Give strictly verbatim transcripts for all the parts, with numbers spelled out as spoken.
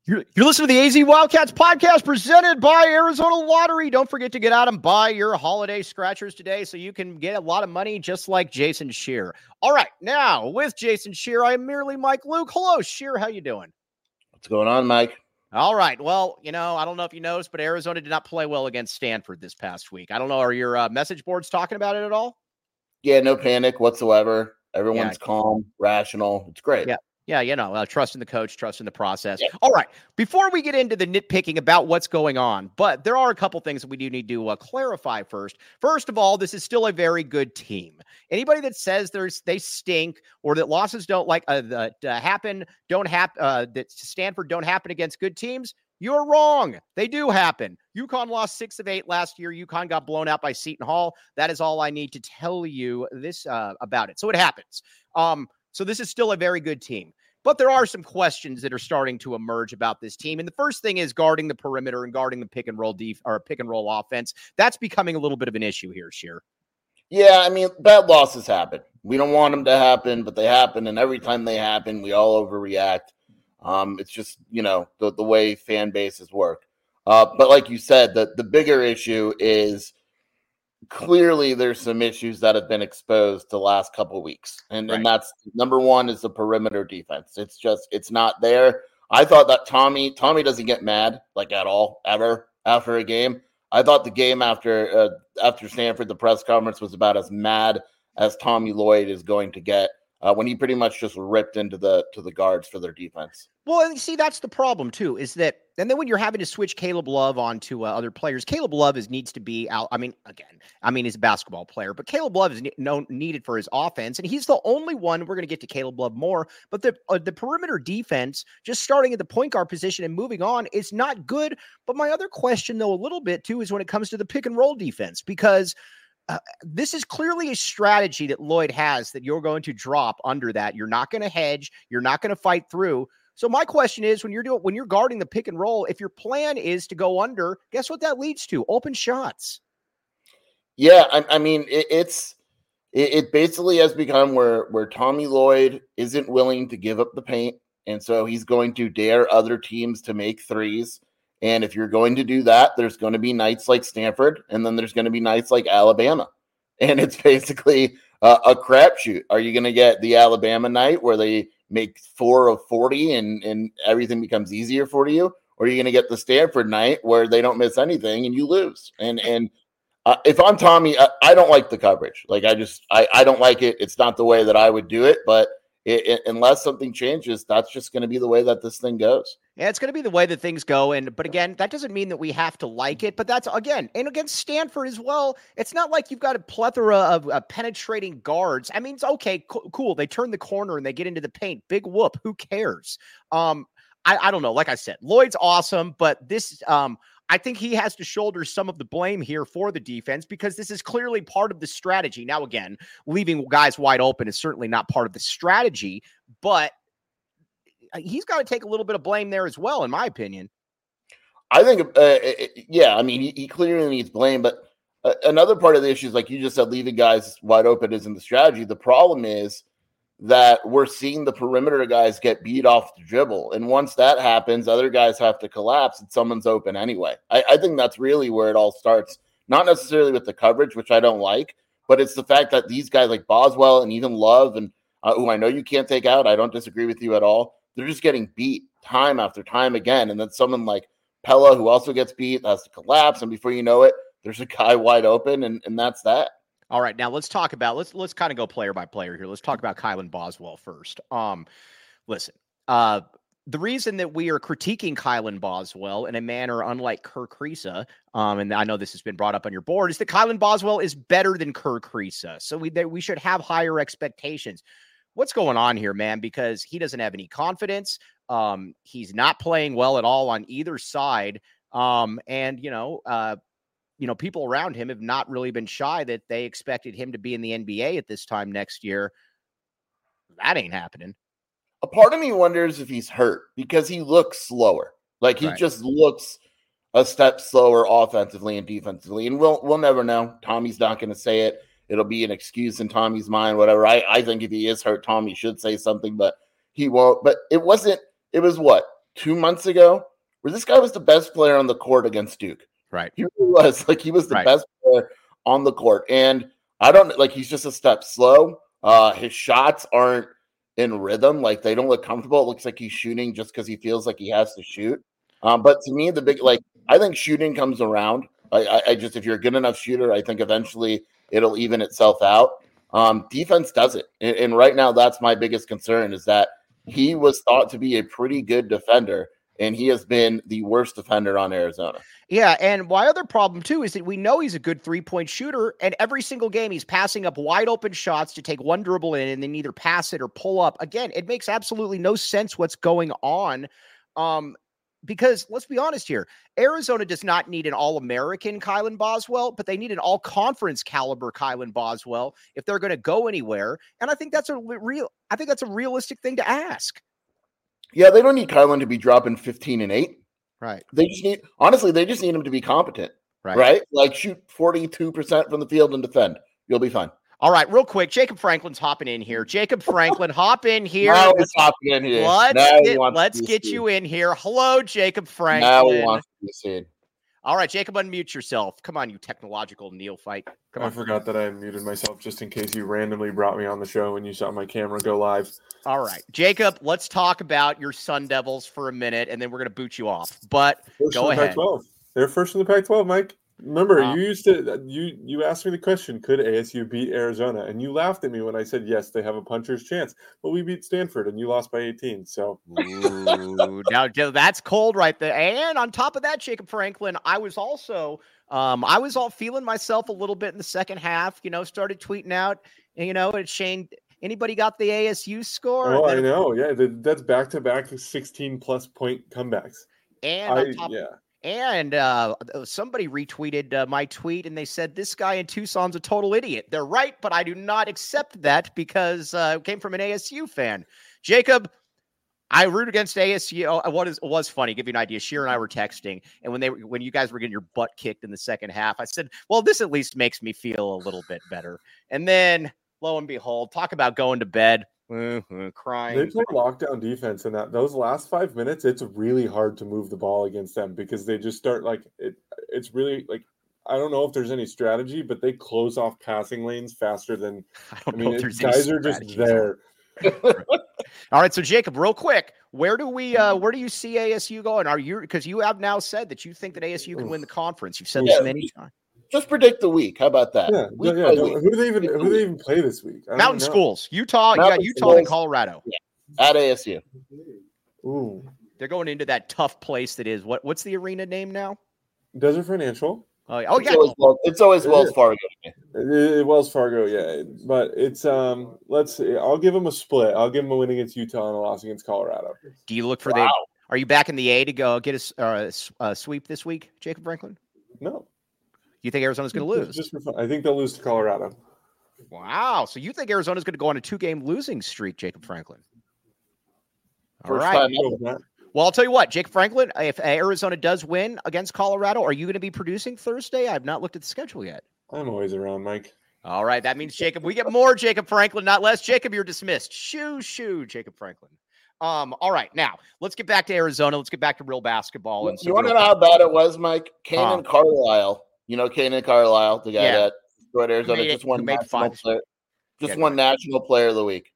You're, you're listening to the A Z Wildcats podcast presented by Arizona Lottery. Don't forget to get out and buy your holiday scratchers today so you can get a lot of money just like Jason Scheer. All right, now with Jason Scheer, I am merely Mike Luke. Hello, Scheer. How you doing? What's going on, Mike? All right. Well, you know, I don't know if you noticed, but Arizona did not play well against Stanford this past week. I don't know. Are your uh, message boards talking about it at all? Yeah, no panic whatsoever. Everyone's yeah. calm, rational. It's great. Yeah. Yeah, you know, uh, trust in the coach, trust in the process. Yeah. All right. Before we get into the nitpicking about what's going on, but there are a couple things that we do need to uh, clarify first. First of all, this is still a very good team. Anybody that says there's they stink or that losses don't like uh, that uh, happen, don't happen, uh, that Stanford don't happen against good teams, you're wrong. They do happen. UConn lost six of eight last year. UConn got blown out by Seton Hall. That is all I need to tell you this uh, about it. So it happens. Um, so this is still a very good team. But there are some questions that are starting to emerge about this team. And the first thing is guarding the perimeter and guarding the pick and roll def- or pick and roll offense. That's becoming a little bit of an issue here, Scheer. Yeah, I mean, bad losses happen. We don't want them to happen, but they happen. And every time they happen, we all overreact. Um, it's just, you know, the, the way fan bases work. Uh, but like you said, the, the bigger issue is clearly there's some issues that have been exposed the last couple of weeks. And, right. and that's number one is the perimeter defense. It's just, it's not there. I thought that Tommy, Tommy doesn't get mad like at all, ever after a game. I thought the game after, uh, after Stanford, the press conference was about as mad as Tommy Lloyd is going to get uh, when he pretty much just ripped into the, to the guards for their defense. Well, and see, that's the problem too, is that, and then when you're having to switch Caleb Love onto uh, other players, Caleb Love is needs to be out. I mean, again, I mean, he's a basketball player, but Caleb Love is ne- no, needed for his offense. And he's the only one. We're going to get to Caleb Love more, but the, uh, the perimeter defense, just starting at the point guard position and moving on, is not good. But my other question though, a little bit too, is when it comes to the pick and roll defense, because Uh, this is clearly a strategy that Lloyd has that you're going to drop under that. You're not going to hedge. You're not going to fight through. So my question is, when you're doing, when you're guarding the pick and roll, if your plan is to go under, guess what that leads to? Open shots. Yeah. I, I mean, it, it's, it, it basically has become where, where Tommy Lloyd isn't willing to give up the paint. And so he's going to dare other teams to make threes. And if you're going to do that, there's going to be nights like Stanford, and then there's going to be nights like Alabama. And it's basically uh, a crapshoot. Are you going to get the Alabama night where they make four of forty and, and everything becomes easier for you? Or are you going to get the Stanford night where they don't miss anything and you lose? And and uh, if I'm Tommy, I, I don't like the coverage. Like I just, I, I don't like it. It's not the way that I would do it, but It, it, unless something changes, that's just going to be the way that this thing goes. Yeah, it's going to be the way that things go. And, but again, that doesn't mean that we have to like it, but that's again, and against Stanford as well. It's not like you've got a plethora of uh, penetrating guards. I mean, it's okay. Co- cool. They turn the corner and they get into the paint. Big whoop. Who cares? Um, I, I don't know. Like I said, Lloyd's awesome, but this, um, I think he has to shoulder some of the blame here for the defense because this is clearly part of the strategy. Now, again, leaving guys wide open is certainly not part of the strategy, but he's got to take a little bit of blame there as well, in my opinion. I think, uh, yeah, I mean, he, he clearly needs blame, but uh, another part of the issue is, like you just said, leaving guys wide open isn't the strategy. The problem is that we're seeing the perimeter guys get beat off the dribble. And once that happens, other guys have to collapse and someone's open anyway. I, I think that's really where it all starts. Not necessarily with the coverage, which I don't like, but it's the fact that these guys like Boswell and even Love, and uh, who I know you can't take out, I don't disagree with you at all. They're just getting beat time after time again. And then someone like Pella, who also gets beat, has to collapse. And before you know it, there's a guy wide open, and, and that's that. All right, now let's talk about let's let's kind of go player by player here. Let's talk about Kylan Boswell first. Um, listen, uh, the reason that we are critiquing Kylan Boswell in a manner unlike Kerr Kriisa, um, and I know this has been brought up on your board, is that Kylan Boswell is better than Kerr Kriisa, so we they, we should have higher expectations. What's going on here, man? Because he doesn't have any confidence. Um, he's not playing well at all on either side, um, and you know. Uh, You know, people around him have not really been shy that they expected him to be in the N B A at this time next year. That ain't happening. A part of me wonders if he's hurt because he looks slower. Like he right. just looks a step slower offensively and defensively. And we'll we'll never know. Tommy's not going to say it. It'll be an excuse in Tommy's mind, whatever. I, I think if he is hurt, Tommy should say something, but he won't. But it wasn't, it was what? two months ago where this guy was the best player on the court against Duke. Right. He really was. Like, he was the right. best player on the court. And I don't, like, he's just a step slow. Uh, his shots aren't in rhythm. Like, they don't look comfortable. It looks like he's shooting just because he feels like he has to shoot. Um, but to me, the big, like, I think shooting comes around. I, I, I just, if you're a good enough shooter, I think eventually it'll even itself out. Um, defense does it. And, and right now, that's my biggest concern, is that he was thought to be a pretty good defender, and he has been the worst defender on Arizona. Yeah, and my other problem, too, is that we know he's a good three-point shooter, and every single game he's passing up wide-open shots to take one dribble in and then either pass it or pull up. Again, it makes absolutely no sense what's going on, um, because let's be honest here. Arizona does not need an All-American Kylan Boswell, but they need an All-Conference caliber Kylan Boswell if they're going to go anywhere, and I think that's a real – I think that's a realistic thing to ask. Yeah, they don't need Kylan to be dropping fifteen and eight. Right. They just need, honestly, they just need him to be competent. Right. Right? Like, shoot forty-two percent from the field and defend. You'll be fine. All right, real quick. Jacob Franklin's hopping in here. Jacob Franklin, hop in here. Now he's hopping in here. Let's now get, let's get you in here. Hello, Jacob Franklin. Now he wants to be seen. All right, Jacob, unmute yourself. Come on, you technological neophyte. Come on. I forgot that I muted myself just in case you randomly brought me on the show and you saw my camera go live. All right, Jacob, let's talk about your Sun Devils for a minute, and then we're going to boot you off. But first go in the ahead. Pac twelve. They're first in the Pac twelve, Mike. Remember, Wow. you used to you you asked me the question, could A S U beat Arizona? And you laughed at me when I said yes, they have a puncher's chance. But we beat Stanford and you lost by eighteen. So Ooh, now that's cold right there. And on top of that, Jacob Franklin, I was also um I was all feeling myself a little bit in the second half, you know, started tweeting out, you know, and Shane, anybody got the A S U score? Oh, I know. Yeah, that's back to back sixteen plus point comebacks. And I, on top yeah. And uh, somebody retweeted uh, my tweet, and they said, this guy in Tucson's a total idiot. They're right, but I do not accept that because uh, it came from an A S U fan. Jacob, I root against A S U. Oh, what is it was funny, give you an idea. Sheer and I were texting, and when they when you guys were getting your butt kicked in the second half, I said, well, this at least makes me feel a little bit better. And then, lo and behold, talk about going to bed. Mm-hmm, crying. They play lockdown defense, and that those last five minutes, it's really hard to move the ball against them because they just start like it. It's really like I don't know if there's any strategy, but they close off passing lanes faster than I don't I mean. know if there's guys any are just there. All right, so Jacob, real quick, where do we, uh, where do you see A S U going? Are you because you have now said that you think that A S U can win the conference? You've said yeah. this many times. Just predict the week. How about that? Yeah, yeah. Who do they even who do they even play this week? Mountain schools, Utah. Mountain you got Utah schools. and Colorado. Yeah. At A S U. Ooh, they're going into that tough place that is what? What's the arena name now? Desert Financial. Oh, yeah. Oh, it's yeah. Always, well, it's always Wells Fargo. It, it, Wells Fargo, yeah. But it's um. Let's see. I'll give them a split. I'll give them a win against Utah and a loss against Colorado. Do you look for wow. the? Are you back in the A to go get a, uh, a sweep this week, Jacob Franklin? No. You think Arizona's going to lose? Just for fun. I think they'll lose to Colorado. Wow. So you think Arizona's going to go on a two-game losing streak, Jacob Franklin? All First right. time ever. Well, I'll tell you what, Jacob Franklin, if Arizona does win against Colorado, are you going to be producing Thursday? I've not looked at the schedule yet. I'm always around, Mike. All right. That means, Jacob, we get more Jacob Franklin, not less. Jacob, you're dismissed. Shoo, shoo, Jacob Franklin. Um, all right, now let's get back to Arizona. Let's get back to real basketball. And you want to know how bad it was, Mike? Kanan huh. Carlisle. You know Kanan Carlisle, the guy yeah. that scored Arizona, made just it, won national player, just yeah, won national player of the week.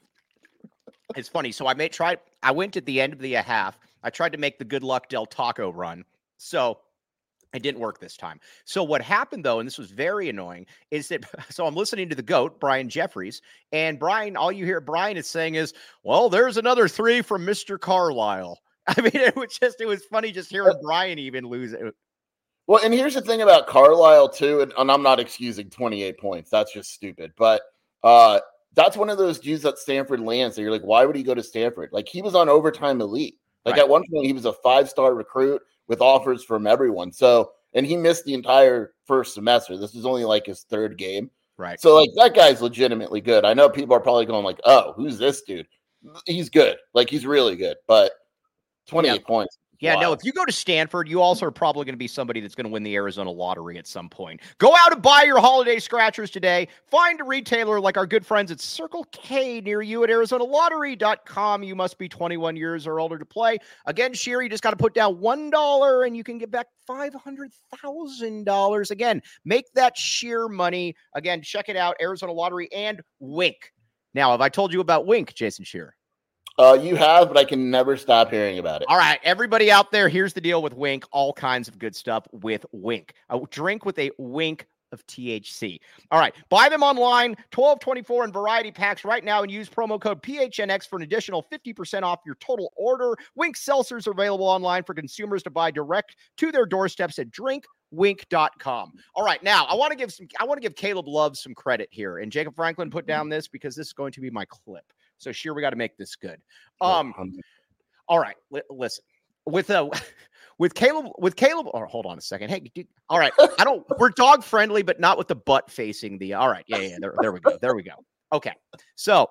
It's funny. So I made tried. I went at the end of the half. I tried to make the Good Luck Del Taco run. So it didn't work this time. So what happened, though, and this was very annoying, is that so I'm listening to the GOAT, Brian Jeffries, and Brian, all you hear Brian is saying is, well, there's another three from Mister Carlisle. I mean, it was just, it was funny just hearing Brian even lose it. Well, and here's the thing about Carlisle, too, and, and I'm not excusing twenty-eight points. That's just stupid. But uh, that's one of those dudes that Stanford lands that you're like, why would he go to Stanford? Like, he was on Overtime Elite. Like, right. At one point, he was a five-star recruit with offers from everyone. So, and he missed the entire first semester. This is only like his third game. Right. So, like, that guy's legitimately good. I know people are probably going like, oh, who's this dude? He's good. Like, he's really good. But twenty-eight yeah. points. Yeah, Wow. no, if you go to Stanford, you also are probably going to be somebody that's going to win the Arizona lottery at some point. Go out and buy your holiday scratchers today. Find a retailer like our good friends at Circle K near you at Arizona Lottery dot com. You must be twenty-one years or older to play. Again, Sheer, you just got to put down one dollar and you can get back five hundred thousand dollars. Again, make that sheer money. Again, check it out, Arizona Lottery and Wink. Now, have I told you about Wink, Jason Sheer? Uh, you have, but I can never stop hearing about it. All right, everybody out there, here's the deal with Wink. All kinds of good stuff with Wink. A drink with a wink of T H C. All right, buy them online, twelve twenty-four in variety packs right now, and use promo code P H N X for an additional fifty percent off your total order. Wink seltzers are available online for consumers to buy direct to their doorsteps at drink wink dot com. All right, now I want to give some I want to give Caleb Love some credit here. And Jacob Franklin put down this because this is going to be my clip. So sure, we got to make this good. Um, all right, li- listen with uh with Caleb with Caleb. Or hold on a second. Hey, dude, all right, I don't. We're dog friendly, but not with the butt facing the. All right, yeah, yeah. There, there we go. There we go. Okay, so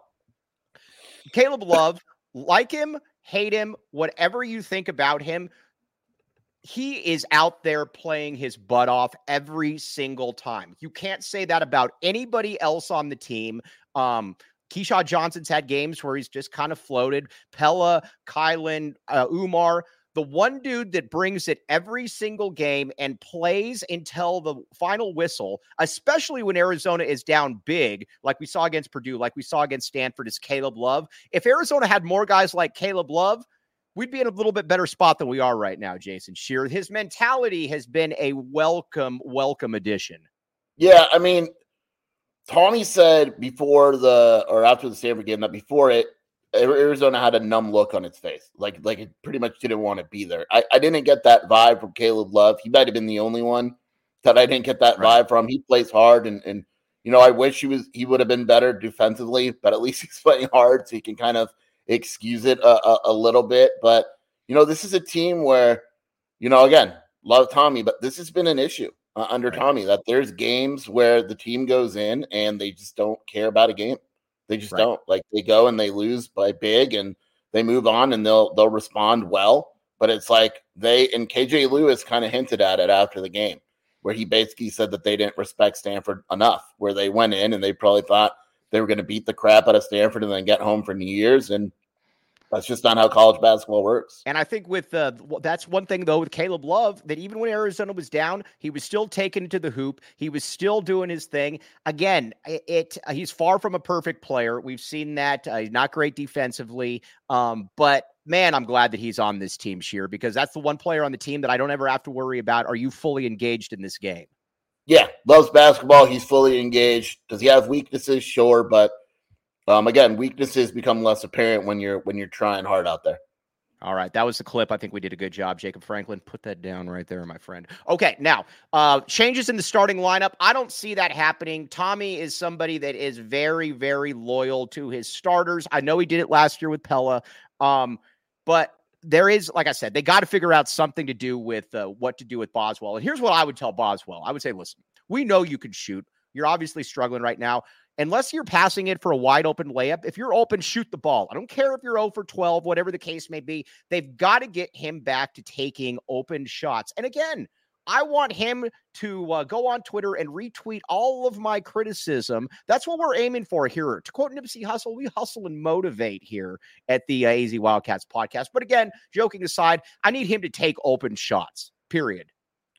Caleb Love, like him, hate him, whatever you think about him, he is out there playing his butt off every single time. You can't say that about anybody else on the team. Um. Keyshawn Johnson's had games where he's just kind of floated. Pella, Kylan, uh, Umar, the one dude that brings it every single game and plays until the final whistle, especially when Arizona is down big, like we saw against Purdue, like we saw against Stanford, is Caleb Love. If Arizona had more guys like Caleb Love, we'd be in a little bit better spot than we are right now, Jason Sheer. His mentality has been a welcome, welcome addition. Yeah, I mean, Tommy said before the or after the Stanford game that before it, Arizona had a numb look on its face, like like it pretty much didn't want to be there. I, I didn't get that vibe from Caleb Love. He might have been the only one that I didn't get that Right. vibe from. He plays hard, and and you know I wish he was he would have been better defensively, but at least he's playing hard, so he can kind of excuse it a, a, a little bit. But you know this is a team where you know again love Tommy, but this has been an issue. Uh, under Right. Tommy, that there's games where the team goes in and they just don't care about a game. They just Right. don't. Like they go and they lose by big and they move on and they'll they'll respond well. But it's like they and K J Lewis kind of hinted at it after the game, where he basically said that they didn't respect Stanford enough, where they went in and they probably thought they were going to beat the crap out of Stanford and then get home for New Year's. And that's just not how college basketball works. And I think with uh, that's one thing, though, with Caleb Love, that even when Arizona was down, he was still taking it to the hoop. He was still doing his thing. Again, it, it uh, he's far from a perfect player. We've seen that. Uh, he's not great defensively. Um, but, man, I'm glad that he's on this team, Sheer, because that's the one player on the team that I don't ever have to worry about. Are you fully engaged in this game? Yeah, loves basketball. He's fully engaged. Does he have weaknesses? Sure, but Um, again, weaknesses become less apparent when you're when you're trying hard out there. All right, that was the clip. I think we did a good job. Jacob Franklin, put that down right there, my friend. Okay, now, uh, changes in the starting lineup. I don't see that happening. Tommy is somebody that is very, very loyal to his starters. I know he did it last year with Pella, um, but there is, like I said, they got to figure out something to do with uh, what to do with Boswell. And here's what I would tell Boswell. I would say, listen, we know you can shoot. You're obviously struggling right now. Unless you're passing it for a wide open layup, if you're open, shoot the ball. I don't care if you're zero for twelve, whatever the case may be. They've got to get him back to taking open shots. And again, I want him to uh, go on Twitter and retweet all of my criticism. That's what we're aiming for here. To quote Nipsey Hussle, we hustle and motivate here at the uh, A Z Wildcats podcast. But again, joking aside, I need him to take open shots, period.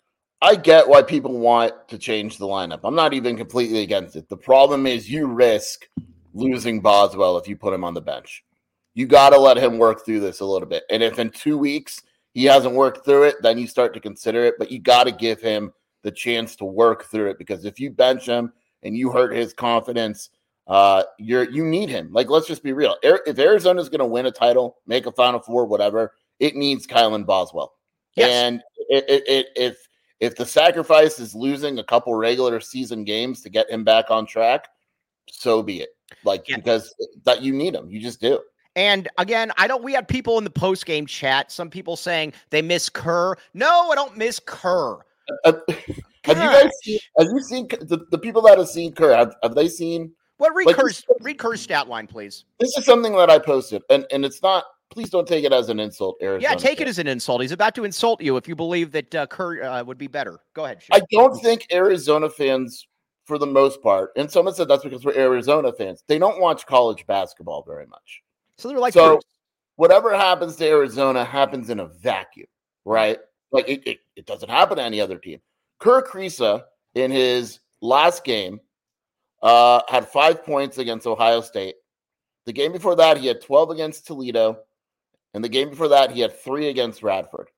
I get why people want to change the lineup. I'm not even completely against it. The problem is you risk losing Boswell if you put him on the bench. You got to let him work through this a little bit. And if in two weeks he hasn't worked through it, then you start to consider it. But you got to give him the chance to work through it, because if you bench him and you hurt his confidence, uh, you're you need him. Like, let's just be real. If Arizona's going to win a title, make a Final Four, whatever, it needs Kylan Boswell. Yes. And it, it, it, if If the sacrifice is losing a couple regular season games to get him back on track, so be it. Like, yeah. Because that you need him. You just do. And again, I don't, we had people in the post-game chat, some people saying they miss Kerr. No, I don't miss Kerr. Uh, have you guys seen, have you seen the, the people that have seen Kerr? Have, have they seen? What, read, like, Kerr's, read Kerr's stat line, please. This is something that I posted, and, and it's not, please don't take it as an insult, Arizona. Yeah, take fans. it as an insult. He's about to insult you if you believe that uh, Kerr uh, would be better. Go ahead. I don't think Arizona fans, for the most part, and someone said that's because we're Arizona fans, they don't watch college basketball very much. So they're like, so Bruce. Whatever happens to Arizona happens in a vacuum, right? Like it, it, it doesn't happen to any other team. Kerr Kriisa, in his last game, uh, had five points against Ohio State. The game before that, he had twelve against Toledo. And the game before that, he had three against Radford.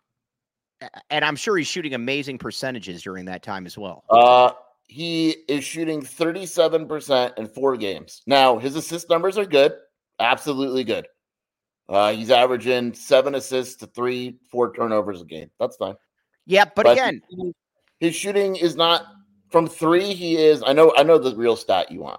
And I'm sure he's shooting amazing percentages during that time as well. Uh, he is shooting thirty-seven percent in four games. Now, his assist numbers are good. Absolutely good. Uh, he's averaging seven assists to three, four turnovers a game. That's fine. Yeah, but, but again, his shooting is not from three. He is, I know, I know the real stat you want.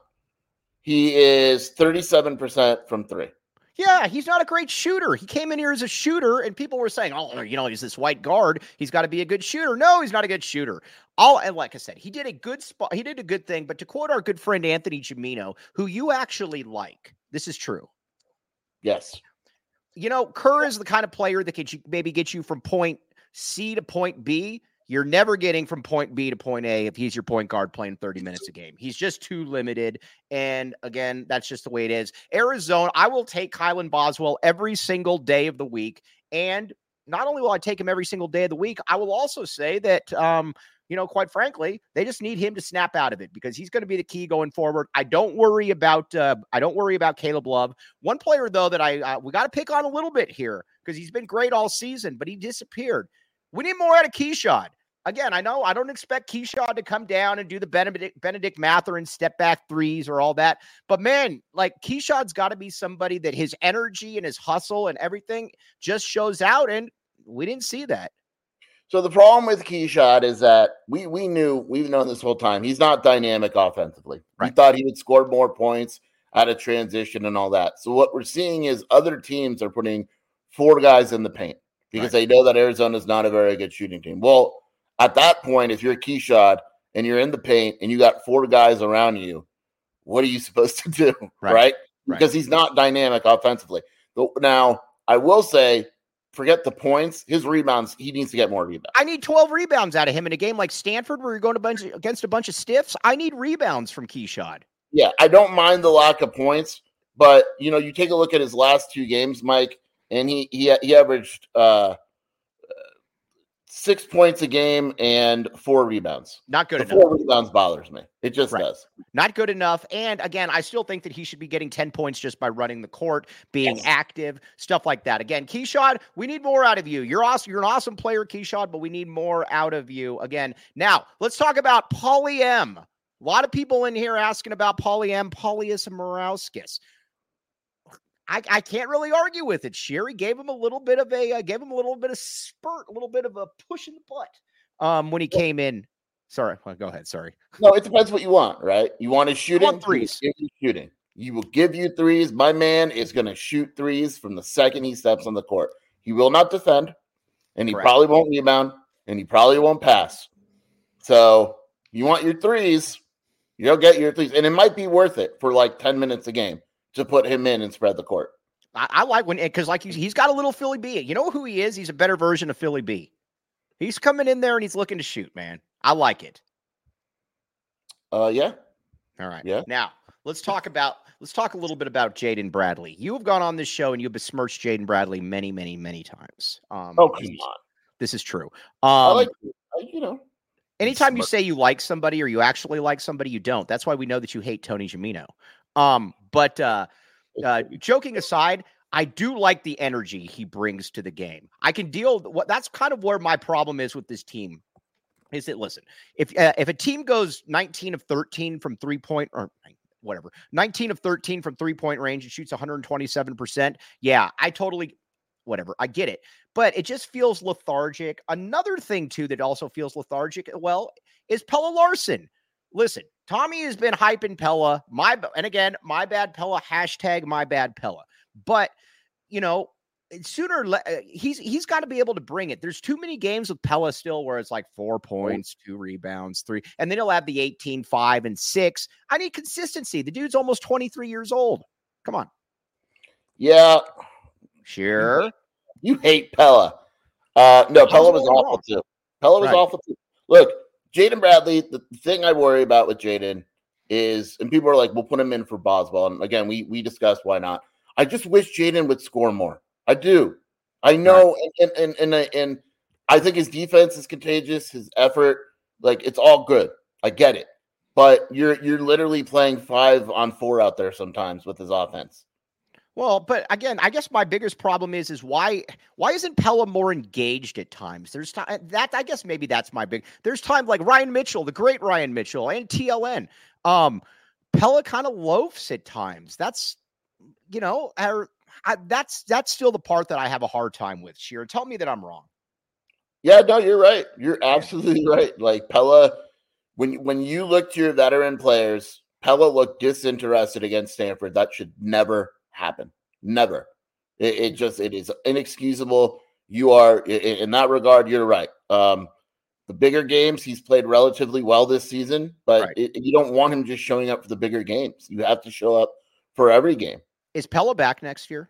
He is thirty-seven percent from three. Yeah, he's not a great shooter. He came in here as a shooter, and people were saying, oh, you know, he's this white guard. He's got to be a good shooter. No, he's not a good shooter. All, and like I said, he did a good spot. He did a good thing. But to quote our good friend Anthony Gimino, who you actually like, this is true. Yes. You know, Kerr is the kind of player that could maybe get you from point C to point B. You're never getting from point B to point A if he's your point guard playing thirty minutes a game. He's just too limited. And again, that's just the way it is. Arizona, I will take Kylan Boswell every single day of the week. And not only will I take him every single day of the week, I will also say that, um, you know, quite frankly, they just need him to snap out of it because he's going to be the key going forward. I don't worry about, uh, I don't worry about Caleb Love. One player though, that I, uh, we got to pick on a little bit here because he's been great all season, but he disappeared. We need more out of Keshad. Again, I know I don't expect Keshad to come down and do the Benedict, Benedict Mathurin step back threes or all that. But man, like Keshad's got to be somebody that his energy and his hustle and everything just shows out. And we didn't see that. So the problem with Keshad is that we we knew, we've known this whole time, he's not dynamic offensively. Right. We thought he would score more points out of transition and all that. So what we're seeing is other teams are putting four guys in the paint because right. they know that Arizona is not a very good shooting team. Well, at that point, if you're Keshad and you're in the paint and you got four guys around you, what are you supposed to do, right? right? Because right. he's not dynamic offensively. Now, I will say, forget the points. His rebounds, he needs to get more rebounds. I need twelve rebounds out of him in a game like Stanford where you're going to bunch, against a bunch of stiffs. I need rebounds from Keshad. Yeah, I don't mind the lack of points, but, you know, you take a look at his last two games, Mike, and he he, he averaged uh, – six points a game and four rebounds. Not good the enough. Four rebounds bothers me. It just right. does. Not good enough. And again, I still think that he should be getting ten points just by running the court, being yes. active, stuff like that. Again, Keshad, we need more out of you. You're awesome. You're an awesome player, Keshad, but we need more out of you. Again, now let's talk about Paulie M. A lot of people in here asking about Paulie M. Paulius Morauskas. I, I can't really argue with it. Sherry gave him a little bit of a, uh, gave him a little bit of spurt, a little bit of a push in the butt um, when he came in. Sorry, well, go ahead. Sorry. No, it depends what you want, right? You want to shoot want threes. He will give you shooting. He will give you threes. My man is going to shoot threes from the second he steps on the court. He will not defend, and he Correct. probably won't rebound, and he probably won't pass. So you want your threes, you'll get your threes, and it might be worth it for like ten minutes a game to put him in and spread the court. I, I like when, because like he's, he's got a little Philly B. You know who he is? He's a better version of Philly B. He's coming in there and he's looking to shoot, man. I like it. Uh, yeah. All right. Yeah. Now let's talk about, let's talk a little bit about Jaden Bradley. You have gone on this show and you've besmirched Jaden Bradley many, many, many times. Um, oh, come on. This is true. Um, I like, you know, anytime you say you like somebody or you actually like somebody, you don't. That's why we know that you hate Tony Gimino. Um, but uh, uh, joking aside, I do like the energy he brings to the game. I can deal. What that's kind of where my problem is with this team. Is that listen, if uh, if a team goes nineteen of thirteen from three point or whatever, nineteen of thirteen from three point range and shoots one hundred twenty-seven percent, yeah, I totally whatever. I get it, but it just feels lethargic. Another thing too that also feels lethargic, well, is Pella Larson. Listen, Tommy has been hyping Pella. My and again, my bad Pella. Hashtag my bad Pella. But you know, sooner he's he's got to be able to bring it. There's too many games with Pella still where it's like four points, two rebounds, three, and then he'll have the eighteen, five, and six. I need consistency. The dude's almost twenty-three years old. Come on. Yeah, Sure. You hate Pella. Uh, no, Pella was awful wrong. too. Pella was Right. awful too. Look, Jaden Bradley, the thing I worry about with Jaden is, and people are like, we'll put him in for Boswell. And again, we we discussed why not. I just wish Jaden would score more. I do. I know, right. and, and, and, and, and I think his defense is contagious, his effort, like it's all good. I get it. But you're you're literally playing five on four out there sometimes with his offense. Well, but again, I guess my biggest problem is is why why isn't Pella more engaged at times? There's time that I guess maybe that's my big. There's time like Ryan Mitchell, the great Ryan Mitchell, and T L N. Um, Pella kind of loafs at times. That's you know, er, I, that's that's still the part that I have a hard time with. Sheer, tell me that I'm wrong. Yeah, no, you're right. You're absolutely right. Like Pella, when when you look to your veteran players, Pella looked disinterested against Stanford. That should never happen. Never. It, it just it is inexcusable. You are in, in that regard. You're right. Um, the bigger games, he's played relatively well this season, but right. it, you don't want him just showing up for the bigger games. You have to show up for every game. Is Pella back next year?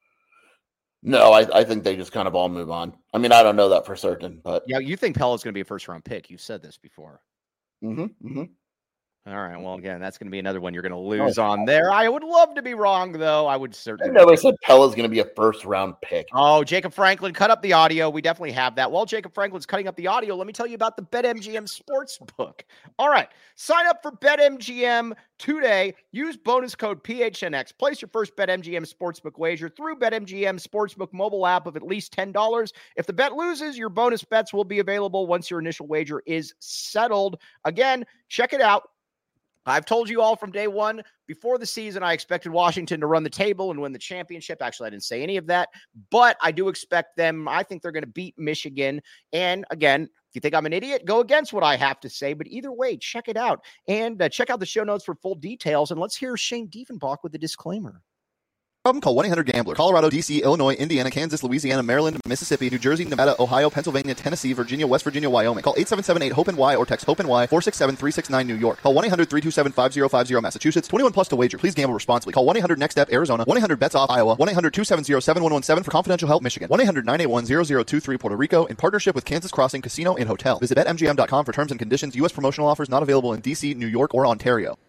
No, I, I think they just kind of all move on. I mean, I don't know that for certain, but yeah, you think Pella's going to be a first round pick? You've said this before. Mm-hmm. Mm-hmm. All right. Well, again, that's going to be another one you're going to lose oh, on there. I would love to be wrong, though. I would certainly. I never said Pella's going to be a first round pick. Oh, Jacob Franklin, cut up the audio. We definitely have that. While Jacob Franklin's cutting up the audio, let me tell you about the BetMGM Sportsbook. All right. Sign up for BetMGM today. Use bonus code P H N X. Place your first BetMGM Sportsbook wager through BetMGM Sportsbook mobile app of at least ten dollars. If the bet loses, your bonus bets will be available once your initial wager is settled. Again, check it out. I've told you all from day one, before the season, I expected Washington to run the table and win the championship. Actually, I didn't say any of that, but I do expect them. I think they're going to beat Michigan. And again, if you think I'm an idiot, go against what I have to say. But either way, check it out. And uh, check out the show notes for full details. And let's hear Shane Diefenbach with the disclaimer. Problem? Call one eight hundred gambler. Colorado, D C, Illinois, Indiana, Kansas, Louisiana, Maryland, Mississippi, New Jersey, Nevada, Ohio, Pennsylvania, Tennessee, Virginia, West Virginia, Wyoming. Call eight seven seven eight hope N Y or text hope N Y four six seven three six nine New York. Call one eight hundred three two seven five zero five zero Massachusetts. twenty-one plus to wager. Please gamble responsibly. Call one eight hundred next step Arizona. one eight hundred bets off Iowa. one eight hundred two seven zero seven one one seven for confidential help Michigan. one eight hundred nine eight one zero zero two three Puerto Rico in partnership with Kansas Crossing Casino and Hotel. Visit bet M G M dot com for terms and conditions. U S promotional offers not available in D C, New York, or Ontario.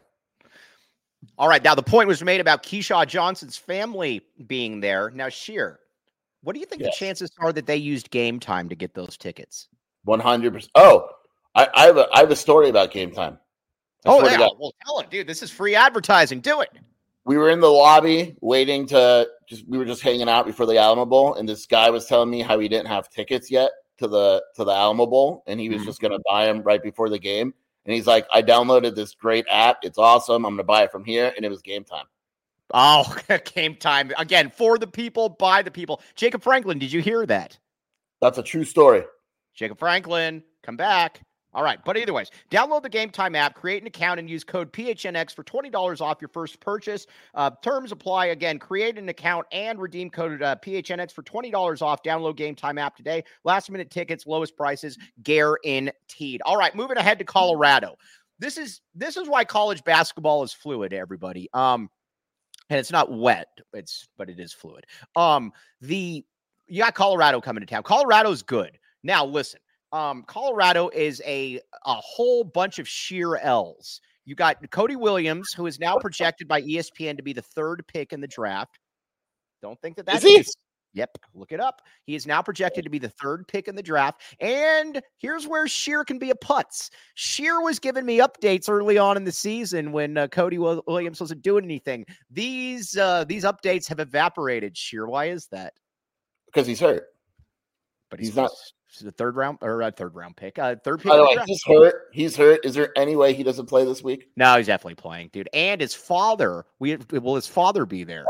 All right, now the point was made about Keyshawn Johnson's family being there. Now, Sheer, what do you think yes. the chances are that they used Game Time to get those tickets? one hundred percent. Oh, I, I have a I have a story about Game Time. I oh, yeah. Well, tell it, dude. This is free advertising. Do it. We were in the lobby waiting to just we were just hanging out before the Alamo Bowl, and this guy was telling me how he didn't have tickets yet to the to the Alamo Bowl, and he was mm-hmm. just going to buy them right before the game. And he's like, I downloaded this great app. It's awesome. I'm going to buy it from here. And it was Game Time. Oh, Game Time. Again, for the people, by the people. Jacob Franklin, did you hear that? That's a true story. Jacob Franklin, come back. All right. But either ways, download the Game Time app, create an account, and use code P H N X for twenty dollars off your first purchase. Uh, terms apply. Again, create an account and redeem code uh, P H N X for twenty dollars off. Download Game Time app today. Last minute tickets, lowest prices, guaranteed. All right. Moving ahead to Colorado. This is this is why college basketball is fluid, everybody. Um, and it's not wet. It's but it is fluid. Um, the you got Colorado coming to town. Colorado's good. Now, listen. Um, Colorado is a, a whole bunch of sheer L's. You got Cody Williams, who is now projected by E S P N to be the third pick in the draft. Don't think that that's... Is he? Yep, look it up. He is now projected to be the third pick in the draft. And here's where Sheer can be a putz. Sheer was giving me updates early on in the season when uh, Cody Williams wasn't doing anything. These uh, these updates have evaporated, Sheer. Why is that? Because he's hurt. But he's, he's not... He's a third round or a third round pick. Uh, third pick. By the way, he's hurt. He's hurt. Is there any way he doesn't play this week? No, he's definitely playing, dude. And his father. We will his father be there?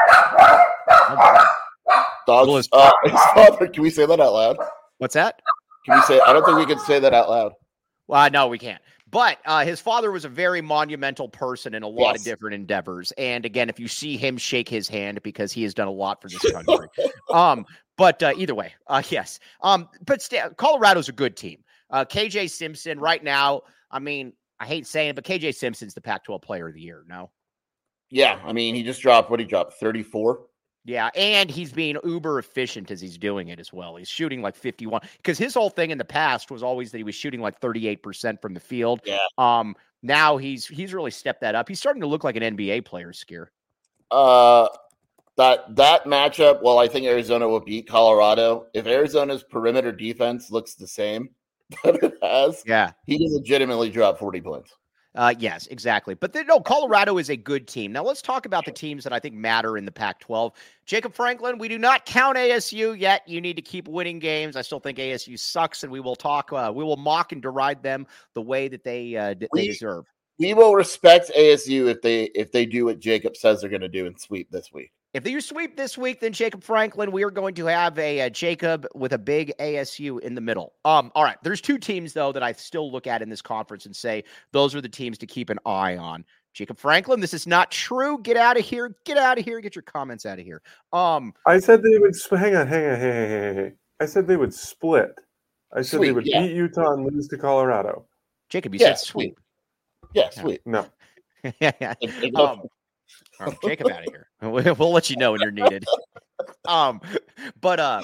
Oh, Dogs. Will his, uh, his father. Can we say that out loud? What's that? Can we say? I don't think we can say that out loud. Well, no, we can't. But uh, his father was a very monumental person in a lot yes. of different endeavors. And again, if you see him, shake his hand because he has done a lot for this country. um, but uh, either way, uh, yes. Um, but st- Colorado's a good team. Uh, K J Simpson right now, I mean, I hate saying it, but K J Simpson's the Pac twelve player of the year, no? Yeah, I mean, he just dropped, what he dropped, thirty-four? Yeah, and he's being uber efficient as he's doing it as well. He's shooting like fifty-one because his whole thing in the past was always that he was shooting like thirty-eight percent from the field. Yeah. Um. Now he's he's really stepped that up. He's starting to look like an N B A player, Skier. Uh, that that matchup. Well, I think Arizona will beat Colorado if Arizona's perimeter defense looks the same that it has. Yeah, he can legitimately drop forty points. Uh, yes, exactly. But then, no, Colorado is a good team. Now let's talk about the teams that I think matter in the Pac twelve. Jacob Franklin, we do not count A S U yet. You need to keep winning games. I still think A S U sucks, and we will talk. Uh, we will mock and deride them the way that they uh, d- we, they deserve. We will respect A S U if they if they do what Jacob says they're going to do and sweep this week. If they sweep this week, then Jacob Franklin, we are going to have a, a Jacob with a big A S U in the middle. Um, all right, there's two teams, though, that I still look at in this conference and say those are the teams to keep an eye on. Jacob Franklin, this is not true. Get out of here. Get out of here. Get your comments out of here. Um, I said they would – hang on, hang on, hang on, hang on. I said they would split. I said sweep, they would yeah. beat Utah and lose to Colorado. Jacob, you yeah, said sweep. Yeah, sweep. No. yeah, yeah. Um, all right, Jacob out of here. We'll, we'll let you know when you're needed. Um, but uh,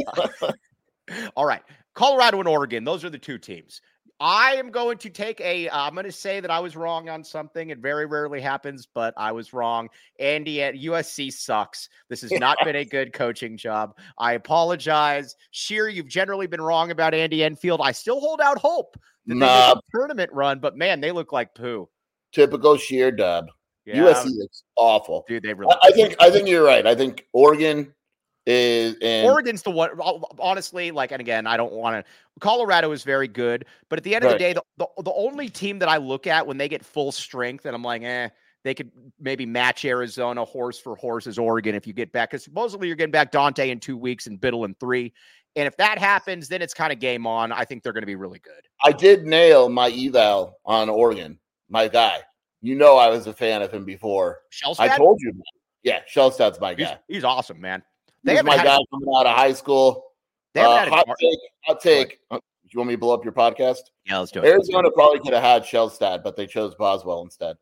all right, Colorado and Oregon. Those are the two teams. I am going to take a. Uh, I'm going to say that I was wrong on something. It very rarely happens, but I was wrong. Andy at U S C sucks. This has not been a good coaching job. I apologize. Sheer, you've generally been wrong about Andy Enfield. I still hold out hope that nah. they make a tournament run, but man, they look like poo. Typical Sheer dub. Yeah, U S C looks awful. Dude, they really. I, I think. I think you're right. I think Oregon is. And Oregon's the one. Honestly, like, and again, I don't want to. Colorado is very good, but at the end of right. the day, the, the the only team that I look at when they get full strength, and I'm like, eh, they could maybe match Arizona horse for horse is Oregon if you get back, because supposedly you're getting back Dante in two weeks and Biddle in three, and if that happens, then it's kind of game on. I think they're going to be really good. I did nail my eval on Oregon, my guy. You know I was a fan of him before. Shellstad? I told you. Yeah, Shellstad's my guy. He's, he's awesome, man. They He's my had guy a, coming out of high school. They Uh, had a, hot take. Hot take. Uh, you want me to blow up your podcast? Yeah, let's do it. Arizona probably could have had Shellstad, but they chose Boswell instead.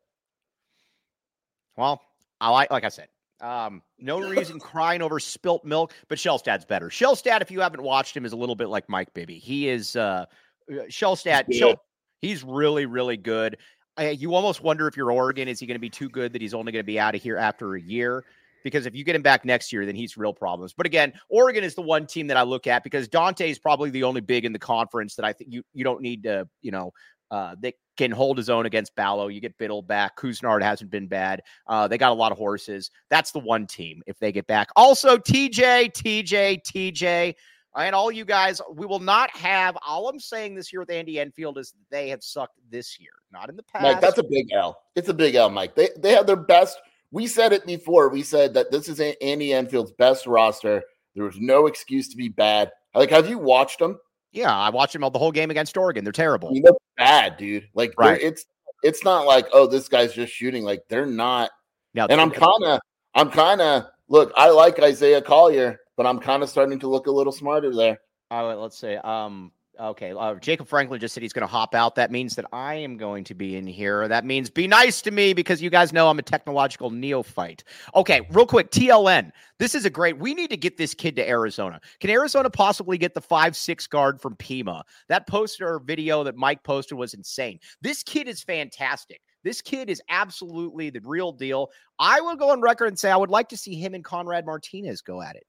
Well, I like, like I said, um, no reason crying over spilt milk, but Shellstad's better. Shellstad, if you haven't watched him, is a little bit like Mike Bibby. He is uh, Shellstad. He's, Shell, he's really, really good. I, you almost wonder if you're Oregon, is he going to be too good that he's only going to be out of here after a year? Because if you get him back next year, then he's real problems. But again, Oregon is the one team that I look at because Dante is probably the only big in the conference that I think you you don't need to, you know, uh, they can hold his own against Ballo. You get Biddle back. Couisnard hasn't been bad. Uh, they got a lot of horses. That's the one team if they get back. Also, T J, T J, T J, and all you guys, we will not have, all I'm saying this year with Andy Enfield is they have sucked this year, not in the past. Mike, that's a big L. It's a big L, Mike. They they have their best. We said it before. We said that this is Andy Enfield's best roster. There was no excuse to be bad. Like, have you watched them? Yeah, I watched them all the whole game against Oregon. They're terrible. You know, bad, dude. Like, right. it's it's not like, oh, this guy's just shooting. Like, they're not. Now, and I'm kind of, I'm kind of, look, I like Isaiah Collier, but I'm kind of starting to look a little smarter there. Uh, let's say, um, okay, uh, Jacob Franklin just said he's going to hop out. That means that I am going to be in here. That means be nice to me because you guys know I'm a technological neophyte. Okay, real quick, T L N. This is a great, we need to get this kid to Arizona. Can Arizona possibly get the five six guard from Pima? That poster video that Mike posted was insane. This kid is fantastic. This kid is absolutely the real deal. I will go on record and say I would like to see him and Conrad Martinez go at it.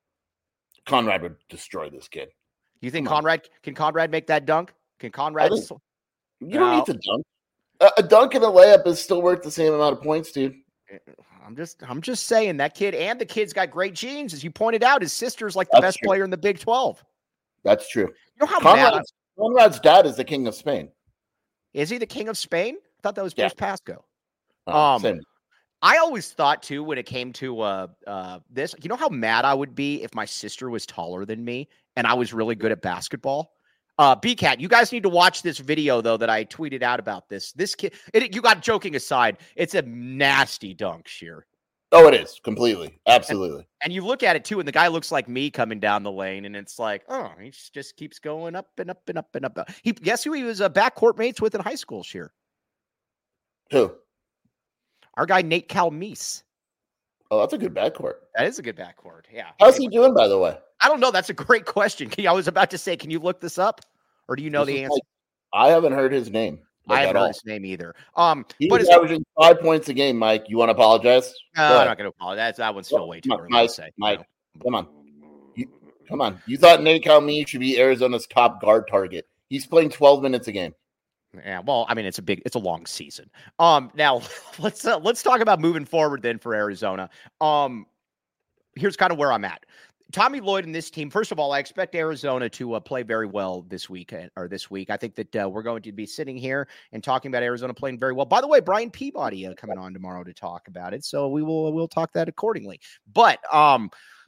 Conrad would destroy this kid. You think Come Conrad on. can Conrad make that dunk? Can Conrad? You don't no. need to dunk. A, a dunk and a layup is still worth the same amount of points, dude. I'm just, I'm just saying that kid, and the kid's got great genes, as you pointed out. His sister's like the That's best true. player in the Big twelve. That's true. You know how Conrad's, mad Conrad's dad is the king of Spain. Is he the king of Spain? I thought that was Bruce yeah. Pascoe. Uh, um, same. I always thought too when it came to uh, uh, this, you know how mad I would be if my sister was taller than me and I was really good at basketball. Uh, B-Cat, you guys need to watch this video though that I tweeted out about this. This kid, it, you got joking aside, it's a nasty dunk, Sheer. Oh, it is completely, absolutely. And, and you look at it too, and the guy looks like me coming down the lane, and it's like, oh, he just keeps going up and up and up and up. He guess who he was uh, backcourt mates with in high school, Sheer? Who? Our guy Nate Calmise. Oh, that's a good backcourt. That is a good backcourt. Yeah. How's he doing, by the way? I don't know. That's a great question. I was about to say, can you look this up, or do you know This the is answer? like- I haven't heard his name. Like, I haven't at heard all. his name either. Um, He but was it's, averaging five points a game, Mike. You want to apologize? no, Go I'm ahead. not going to apologize. That one's still way too Mike, early Mike, to say. Mike, you know. Come on. You, come on. You thought Nate Calmey should be Arizona's top guard target. He's playing twelve minutes a game. Yeah, well, I mean, it's a big, it's a long season. Um, now let's uh, let's talk about moving forward then for Arizona. Um, here's kind of where I'm at. Tommy Lloyd and this team. First of all, I expect Arizona to uh, play very well this week or this week. I think that uh, we're going to be sitting here and talking about Arizona playing very well. By the way, Brian Peabody uh, coming on tomorrow to talk about it, so we will we'll talk that accordingly. But um.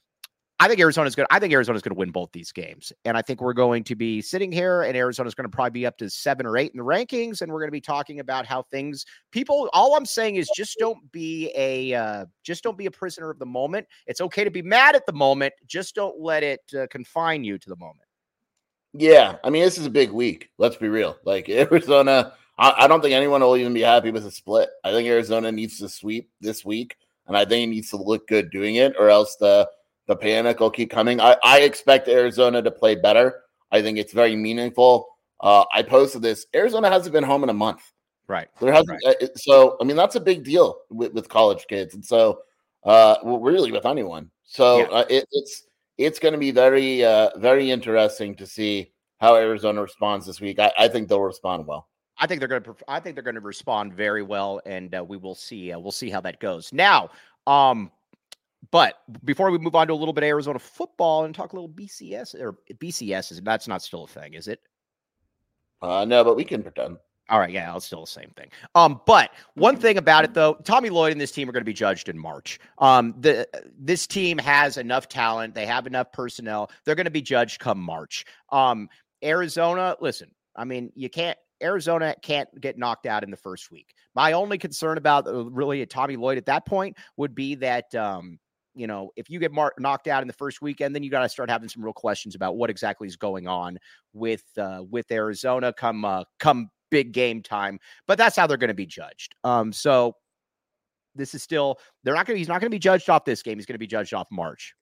I think Arizona's good. I think Arizona's going to win both these games. And I think we're going to be sitting here and Arizona's going to probably be up to seven or eight in the rankings. And we're going to be talking about how things people, all I'm saying is just don't be a, uh, just don't be a prisoner of the moment. It's okay to be mad at the moment. Just don't let it uh, confine you to the moment. Yeah. I mean, this is a big week. Let's be real. Like Arizona, I, I don't think anyone will even be happy with a split. I think Arizona needs to sweep this week. And I think it needs to look good doing it, or else the, The panic will keep coming. I, I expect Arizona to play better. I think it's very meaningful. Uh, I posted this. Arizona hasn't been home in a month. Right. There hasn't. Right. Uh, so, I mean, that's a big deal with, with college kids. And so, uh, well, really with anyone. So Yeah. uh, it, it's it's going to be very, uh, very interesting to see how Arizona responds this week. I, I think they'll respond well. I think they're going to. I think they're going to respond very well, and uh, we will see. Uh, we'll see how that goes. Now, um, but before we move on to a little bit of Arizona football and talk a little B C S or B C S, is that's not still a thing, is it? Uh, no, but we can pretend. All right, yeah, it's still the same thing. Um, but one thing about it though, Tommy Lloyd and this team are going to be judged in March. Um, the this team has enough talent, they have enough personnel. They're going to be judged come March. Um, Arizona, listen, I mean, you can't. Arizona can't get knocked out in the first week. My only concern about uh, really a Tommy Lloyd at that point would be that. Um, You know, if you get mar- knocked out in the first weekend, then you got to start having some real questions about what exactly is going on with uh, with Arizona come uh, come big game time. But that's how they're going to be judged. Um, so this is still they're not going. He's not going to be judged off this game. He's going to be judged off March.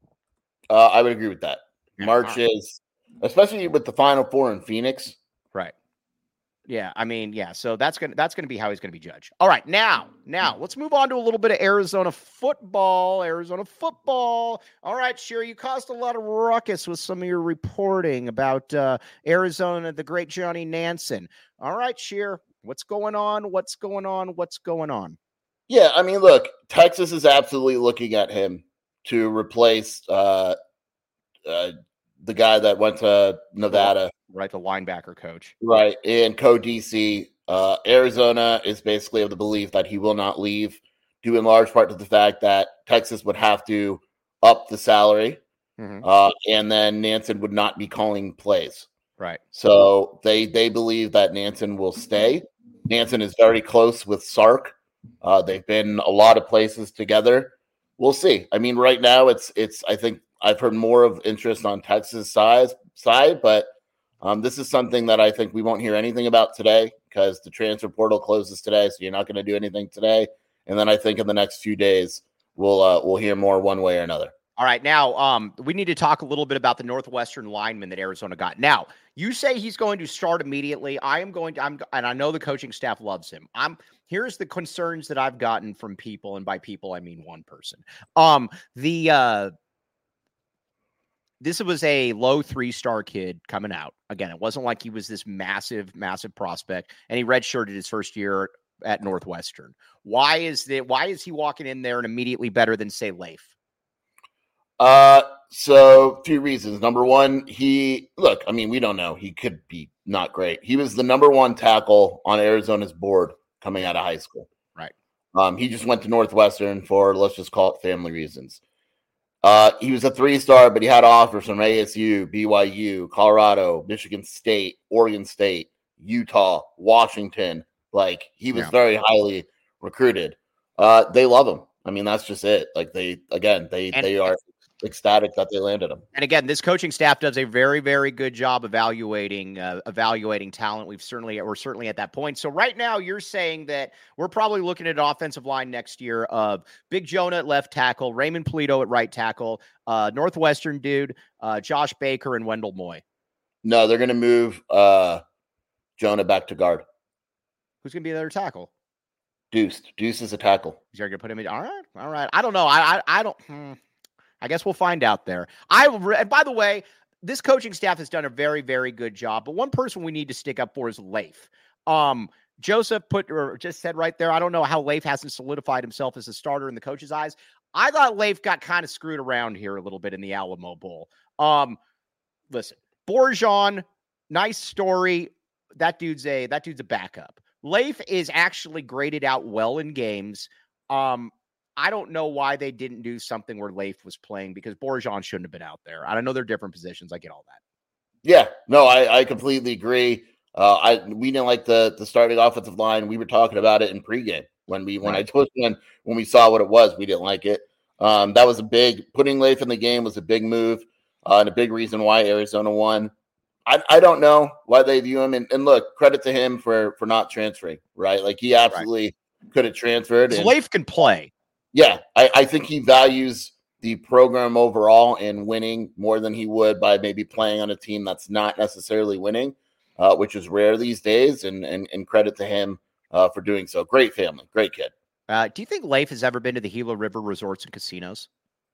Uh, I would agree with that. Yeah, March right. is, especially with the Final Four in Phoenix. Right. Yeah, I mean, yeah. So that's gonna that's gonna be how he's gonna be judged. All right, now, now let's move on to a little bit of Arizona football. Arizona football. All right, sure. You caused a lot of ruckus with some of your reporting about uh, Arizona, the great Johnny Nansen. All right, Sheer, what's going on? What's going on? What's going on? Yeah, I mean, look, Texas is absolutely looking at him to replace uh, uh, the guy that went to Nevada. Right, the linebacker coach. Right, and Co-D C. Uh, Arizona is basically of the belief that he will not leave, due in large part to the fact that Texas would have to up the salary, Mm-hmm. uh, and then Nansen would not be calling plays. Right. So they they believe that Nansen will stay. Nansen is very close with Sark. Uh, they've been a lot of places together. We'll see. I mean, right now it's it's. I think I've heard more of interest on Texas' size side, but um, this is something that I think we won't hear anything about today because the transfer portal closes today. So you're not going to do anything today. And then I think in the next few days we'll uh, we'll hear more one way or another. All right, now um, we need to talk a little bit about the Northwestern lineman that Arizona got. Now, you say he's going to start immediately. I am going to, I'm, and I know the coaching staff loves him. I'm here's the concerns that I've gotten from people, and by people I mean one person. Um, the uh, this was a low three-star kid coming out. Again, it wasn't like he was this massive, massive prospect, and he redshirted his first year at Northwestern. Why is that? Why is he walking in there and immediately better than say Leif? Uh, so two reasons. Number one, he look, I mean, we don't know. He could be not great. He was the number one tackle on Arizona's board coming out of high school. Right. Um, he just went to Northwestern for, let's just call it family reasons. Uh, he was a three-star, but he had offers from A S U, B Y U, Colorado, Michigan State, Oregon State, Utah, Washington. Like, he was Yeah. very highly recruited. Uh, they love him. I mean, that's just it. Like, they, again, they, And- they are ecstatic that they landed him. And again, this coaching staff does a very, very good job evaluating uh, evaluating talent. We've certainly we're certainly at that point. So right now, you're saying that we're probably looking at an offensive line next year of Big Jonah at left tackle, Raymond Polito at right tackle, uh, Northwestern dude, uh, Josh Baker, and Wendell Moy. No, they're going to move uh, Jonah back to guard. Who's going to be the other tackle? Deuce. Deuce is a tackle. You're going to put him in. All right, all right. I don't know. I I, I don't. Hmm. I guess we'll find out there. I and by the way, this coaching staff has done a very, very good job. But one person we need to stick up for is Leif. Um, Joseph put or just said right there. I don't know how Leif hasn't solidified himself as a starter in the coach's eyes. I thought Leif got kind of screwed around here a little bit in the Alamo Bowl. Um, listen, Borjan, nice story. That dude's a that dude's a backup. Leif is actually graded out well in games. Um, I don't know why they didn't do something where Leif was playing because Borjan shouldn't have been out there. I don't know they're different positions. I get all that. Yeah, no, I, I completely agree. Uh, I we didn't like the the starting offensive line. We were talking about it in pregame when we when right. I told when when we saw what it was. We didn't like it. Um, that was a big putting Leif in the game was a big move uh, and a big reason why Arizona won. I, I don't know why they view him. And, and look, credit to him for for not transferring, right? Like he absolutely right. could have transferred. And, Leif can play. Yeah, I, I think he values the program overall and winning more than he would by maybe playing on a team that's not necessarily winning, uh, which is rare these days. And and, and credit to him uh, for doing so. Great family, great kid. Uh, do you think Leif has ever been to the Gila River Resorts and Casinos?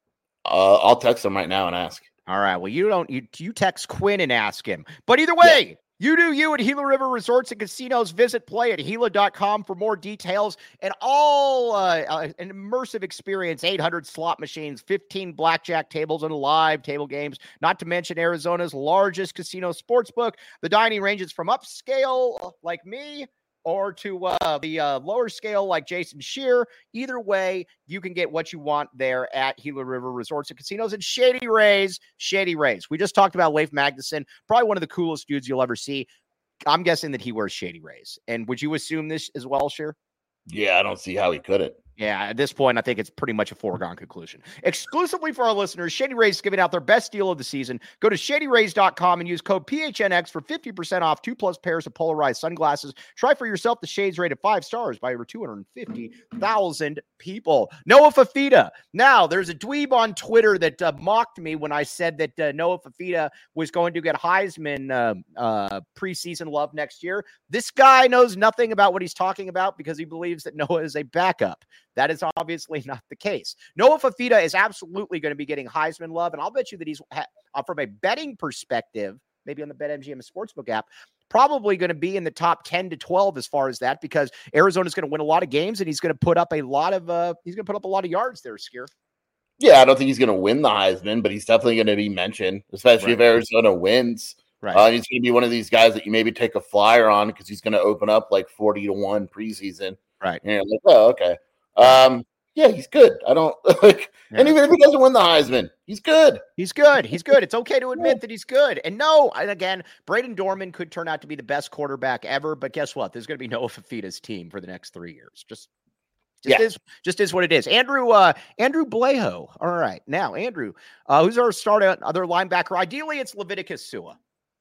Uh, I'll text him right now and ask. All right. Well, you don't, you, you text Quinn and ask him. But either way, yeah. You do you at Gila River Resorts and Casinos. Visit play at Gila dot com for more details and all uh, uh, an immersive experience. eight hundred slot machines, fifteen blackjack tables, and live table games. Not to mention Arizona's largest casino sportsbook. The dining ranges from upscale like me or to uh, the uh, lower scale like Jason Shear. Either way, you can get what you want there at Gila River Resorts and Casinos and Shady Rays. Shady Rays. We just talked about Leif Magnuson, probably one of the coolest dudes you'll ever see. I'm guessing that he wears Shady Rays. And would you assume this as well, Shear? Yeah, I don't see how he couldn't. Yeah, at this point, I think it's pretty much a foregone conclusion. Exclusively for our listeners, Shady Rays is giving out their best deal of the season. Go to shady rays dot com and use code P H N X for fifty percent off two plus pairs of polarized sunglasses. Try for yourself the shades rated five stars by over two hundred fifty thousand people. Noah Fafita. Now, there's a dweeb on Twitter that uh, mocked me when I said that uh, Noah Fafita was going to get Heisman uh, uh, preseason love next year. This guy knows nothing about what he's talking about because he believes that Noah is a backup. That is obviously not the case. Noah Fafita is absolutely going to be getting Heisman love, and I'll bet you that he's, uh, from a betting perspective, maybe on the BetMGM Sportsbook app, probably going to be in the top ten to twelve as far as that, because Arizona's going to win a lot of games, and he's going to put up a lot of uh, he's going to put up a lot of yards there, Skier. Yeah, I don't think he's going to win the Heisman, but he's definitely going to be mentioned, especially right. if Arizona wins. Right. Uh, he's going to be one of these guys that you maybe take a flyer on because he's going to open up like forty to one preseason. Right. And you're like, oh, okay. Um, yeah, he's good. I don't like, yeah. And even if he doesn't win the Heisman, he's good. He's good. He's good. It's okay to admit that he's good. And no, and again, Braden Dorman could turn out to be the best quarterback ever, but guess what? There's going to be Noah Fafita's team for the next three years. Just, just yeah. is, just is what it is. Andrew, uh, Andrew Blejo. All right, now Andrew, uh, who's our starter, other linebacker? Ideally, it's Leviticus Sua.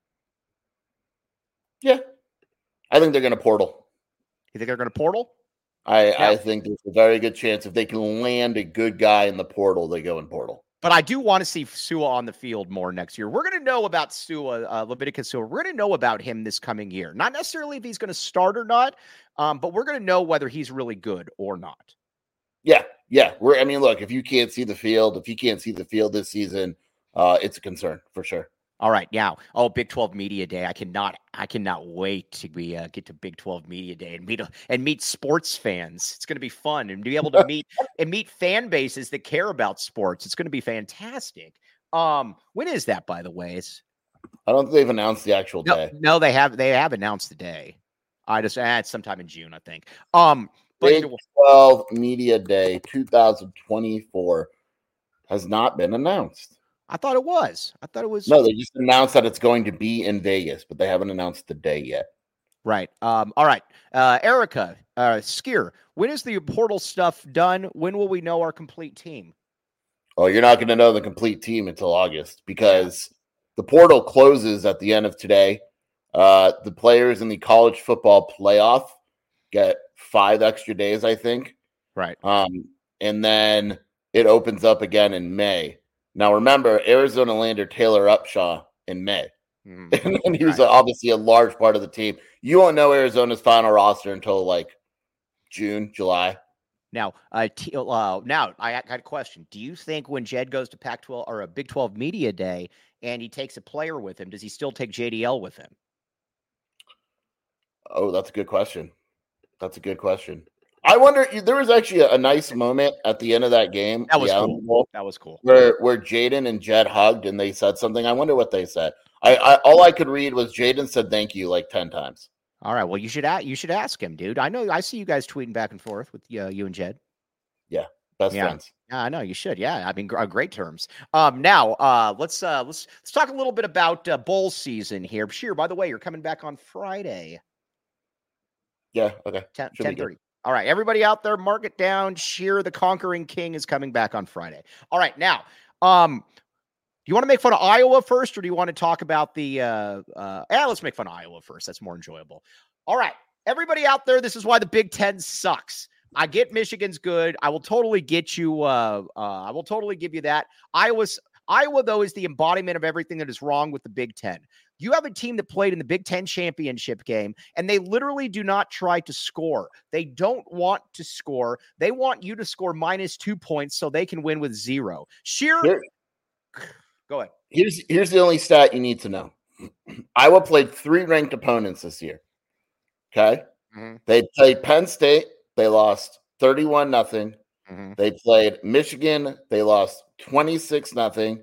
Yeah, I think they're going to portal. You think they're going to portal? I, yeah. I think there's a very good chance if they can land a good guy in the portal, they go in portal. But I do want to see Sua on the field more next year. We're going to know about Sua, uh, Leviticus Sua. We're going to know about him this coming year. Not necessarily if he's going to start or not, um, but we're going to know whether he's really good or not. Yeah, yeah. We're. I mean, look, if you can't see the field, if you can't see the field this season, uh, it's a concern for sure. All right, now, oh, Big twelve Media Day. I cannot, I cannot wait to be uh, get to Big twelve Media Day and meet and meet sports fans. It's going to be fun and be able to meet and meet fan bases that care about sports. It's going to be fantastic. Um, when is that, by the way? It's, I don't think they've announced the actual no, day. No, they have. They have announced the day. I just, eh, it's sometime in June, I think. Um, but Big twelve Media Day twenty twenty-four has not been announced. I thought it was. I thought it was. No, they just announced that it's going to be in Vegas, but they haven't announced the day yet. Right. Um, all right. Uh, Erica, uh, Skier, when is the portal stuff done? When will we know our complete team? Oh, you're not going to know the complete team until August because the portal closes at the end of today. Uh, the players in the college football playoff get five extra days, I think. Right. Um, and then it opens up again in May. Now, remember, Arizona landed Taylor Upshaw in May. Mm-hmm. And he was right. obviously a large part of the team. You won't know Arizona's final roster until like June, July. Now, uh, t- uh, now I got a question. Do you think when Jed goes to Pac twelve or a Big twelve media day and he takes a player with him, does he still take J D L with him? Oh, that's a good question. That's a good question. I wonder. There was actually a, a nice moment at the end of that game. That was cool. Bowl, that was cool. Where where Jaden and Jed hugged and they said something. I wonder what they said. I, I all I could read was Jaden said thank you like ten times. All right. Well, you should a- you should ask him, dude. I know I see you guys tweeting back and forth with uh, you and Jed. Yeah, best yeah. friends. Yeah, I know you should. Yeah, I mean, gr- great terms. Um, now uh, let's uh, let's let's talk a little bit about uh, bowl season here. Sheer, by the way, you're coming back on Friday. Yeah. Okay. ten thirty. All right, everybody out there, mark it down. Sheer the Conquering King is coming back on Friday. All right, now, um, do you want to make fun of Iowa first, or do you want to talk about the? Uh, uh, yeah, let's make fun of Iowa first. That's more enjoyable. All right, everybody out there, this is why the Big Ten sucks. I get Michigan's good. I will totally get you. Uh, uh, I will totally give you that. Iowa's Iowa though is the embodiment of everything that is wrong with the Big Ten. You have a team that played in the Big Ten championship game, and they literally do not try to score. They don't want to score. They want you to score minus two points so they can win with zero. Sheer, Here, go ahead. Here's here's the only stat you need to know. Iowa played three ranked opponents this year. Okay, mm-hmm. They played Penn State. They lost thirty-one nothing. Mm-hmm. They played Michigan. They lost twenty-six nothing.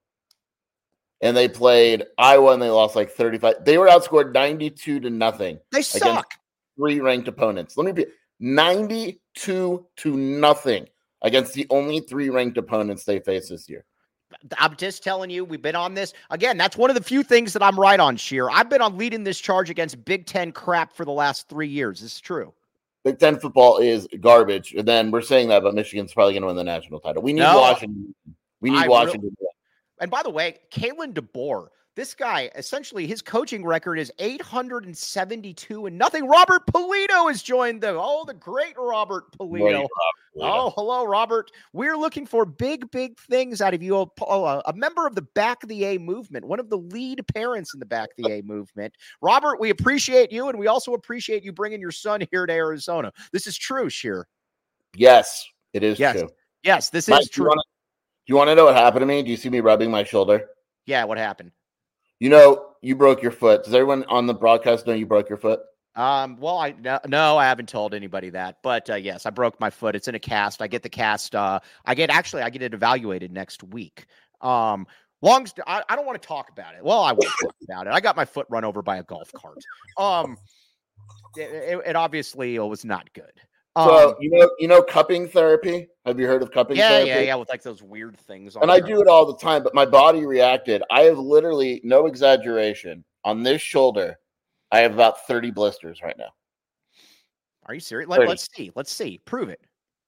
And they played Iowa and they lost like thirty-five. They were outscored ninety-two to nothing. They suck. Three ranked opponents. Let me be ninety-two to nothing against the only three ranked opponents they face this year. I'm just telling you, we've been on this. Again, that's one of the few things that I'm right on, Sheer. I've been on leading this charge against Big Ten crap for the last three years. This is true. Big Ten football is garbage. And then we're saying that, but Michigan's probably going to win the national title. We need no, Washington. We need I Washington. Really, And by the way, Kalen DeBoer, this guy, essentially his coaching record is eight hundred seventy-two and nothing. Robert Polito has joined them. Oh, the great Robert Polito. Great Robert Polito. Oh, hello, Robert. We're looking for big, big things out of you. A, a member of the Back of the A movement, one of the lead parents in the Back of the A movement. Robert, we appreciate you, and we also appreciate you bringing your son here to Arizona. This is true, Sheer. Yes, it is yes. true. Yes, this Mike, is true. Do you, wanna, do you want to know what happened to me? Do you see me rubbing my shoulder? Yeah, what happened? You know, you broke your foot. Does everyone on the broadcast know you broke your foot? Um, well, I no, no I haven't told anybody that, but uh, yes, I broke my foot. It's in a cast. I get the cast. Uh, I get actually, I get it evaluated next week. Um, long, st- I, I don't want to talk about it. Well, I won't talk about it. I got my foot run over by a golf cart. Um, it, it, it obviously was not good. So um, you know, you know, cupping therapy. Have you heard of cupping yeah, therapy? Yeah, yeah, with like those weird things. On and I do it all the time, but my body reacted. I have literally, no exaggeration, on this shoulder, I have about thirty blisters right now. Are you serious? Let, let's see. Let's see. Prove it.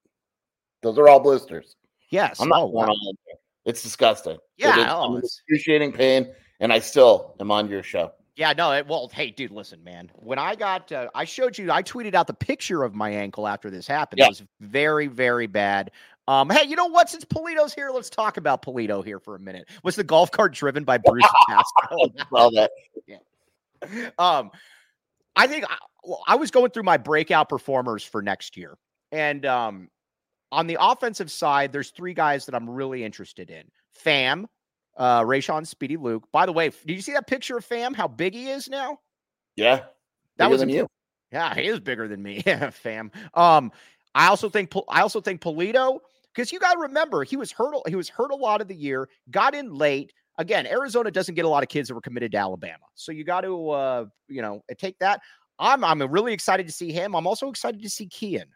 Those are all blisters. Yes. I'm not oh, going wow. on there. It's disgusting. Yeah. It is, oh, I'm excruciating pain, and I still am on your show. Yeah, no, it, well, hey, dude, listen, man. When I got, uh, I showed you, I tweeted out the picture of my ankle after this happened. Yeah. It was very, very bad. Um, hey, you know what? Since Polito's here, let's talk about Polito here for a minute. Was the golf cart driven by Bruce Castro? All that. Yeah. Um, I think I, well, I was going through my breakout performers for next year, and um, on the offensive side, there's three guys that I'm really interested in. Fam. Uh, Rayshon Speedy Luke. By the way, did you see that picture of Fam? How big he is now? Yeah, that was than you. Yeah, he is bigger than me. Fam. Um, I also think I also think Polito, because you got to remember he was hurt. He was hurt a lot of the year. Got in late. Again, Arizona doesn't get a lot of kids that were committed to Alabama, so you got to uh, you know take that. I'm I'm really excited to see him. I'm also excited to see Kian.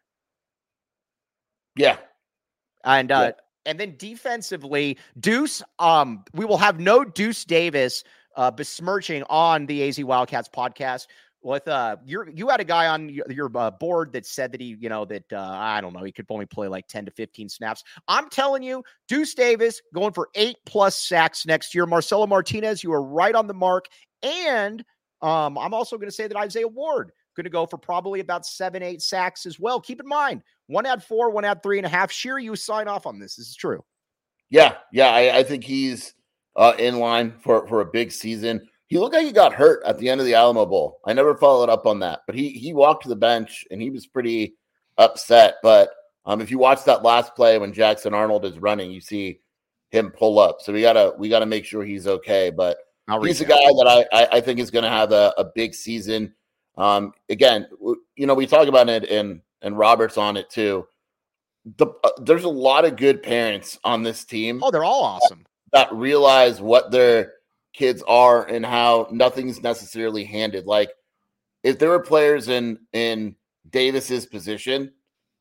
Yeah, and uh, yeah. And then defensively, Deuce, um, we will have no Deuce Davis uh, besmirching on the A Z Wildcats podcast. with uh, you you had a guy on your, your uh, board that said that he, you know, that uh, I don't know, he could only play like ten to fifteen snaps. I'm telling you, Deuce Davis going for eight plus sacks next year. Marcelo Martinez, you are right on the mark. And um, I'm also going to say that Isaiah Ward going to go for probably about seven, eight sacks as well. Keep in mind, one had four, one had three and a half. Sheer, you sign off on this. This is true. Yeah, yeah, I, I think he's uh, in line for, for a big season. He looked like he got hurt at the end of the Alamo Bowl. I never followed up on that, but he he walked to the bench and he was pretty upset. But um, if you watch that last play when Jackson Arnold is running, you see him pull up. So we gotta we gotta make sure he's okay. But I'll he's a guy that I I, I think is going to have a, a big season. Um, again, you know, we talk about it, and and Robert's on it too. The, uh, there's a lot of good parents on this team. Oh, they're all awesome. That, that realize what their kids are and how nothing's necessarily handed. Like if there were players in in Davis's position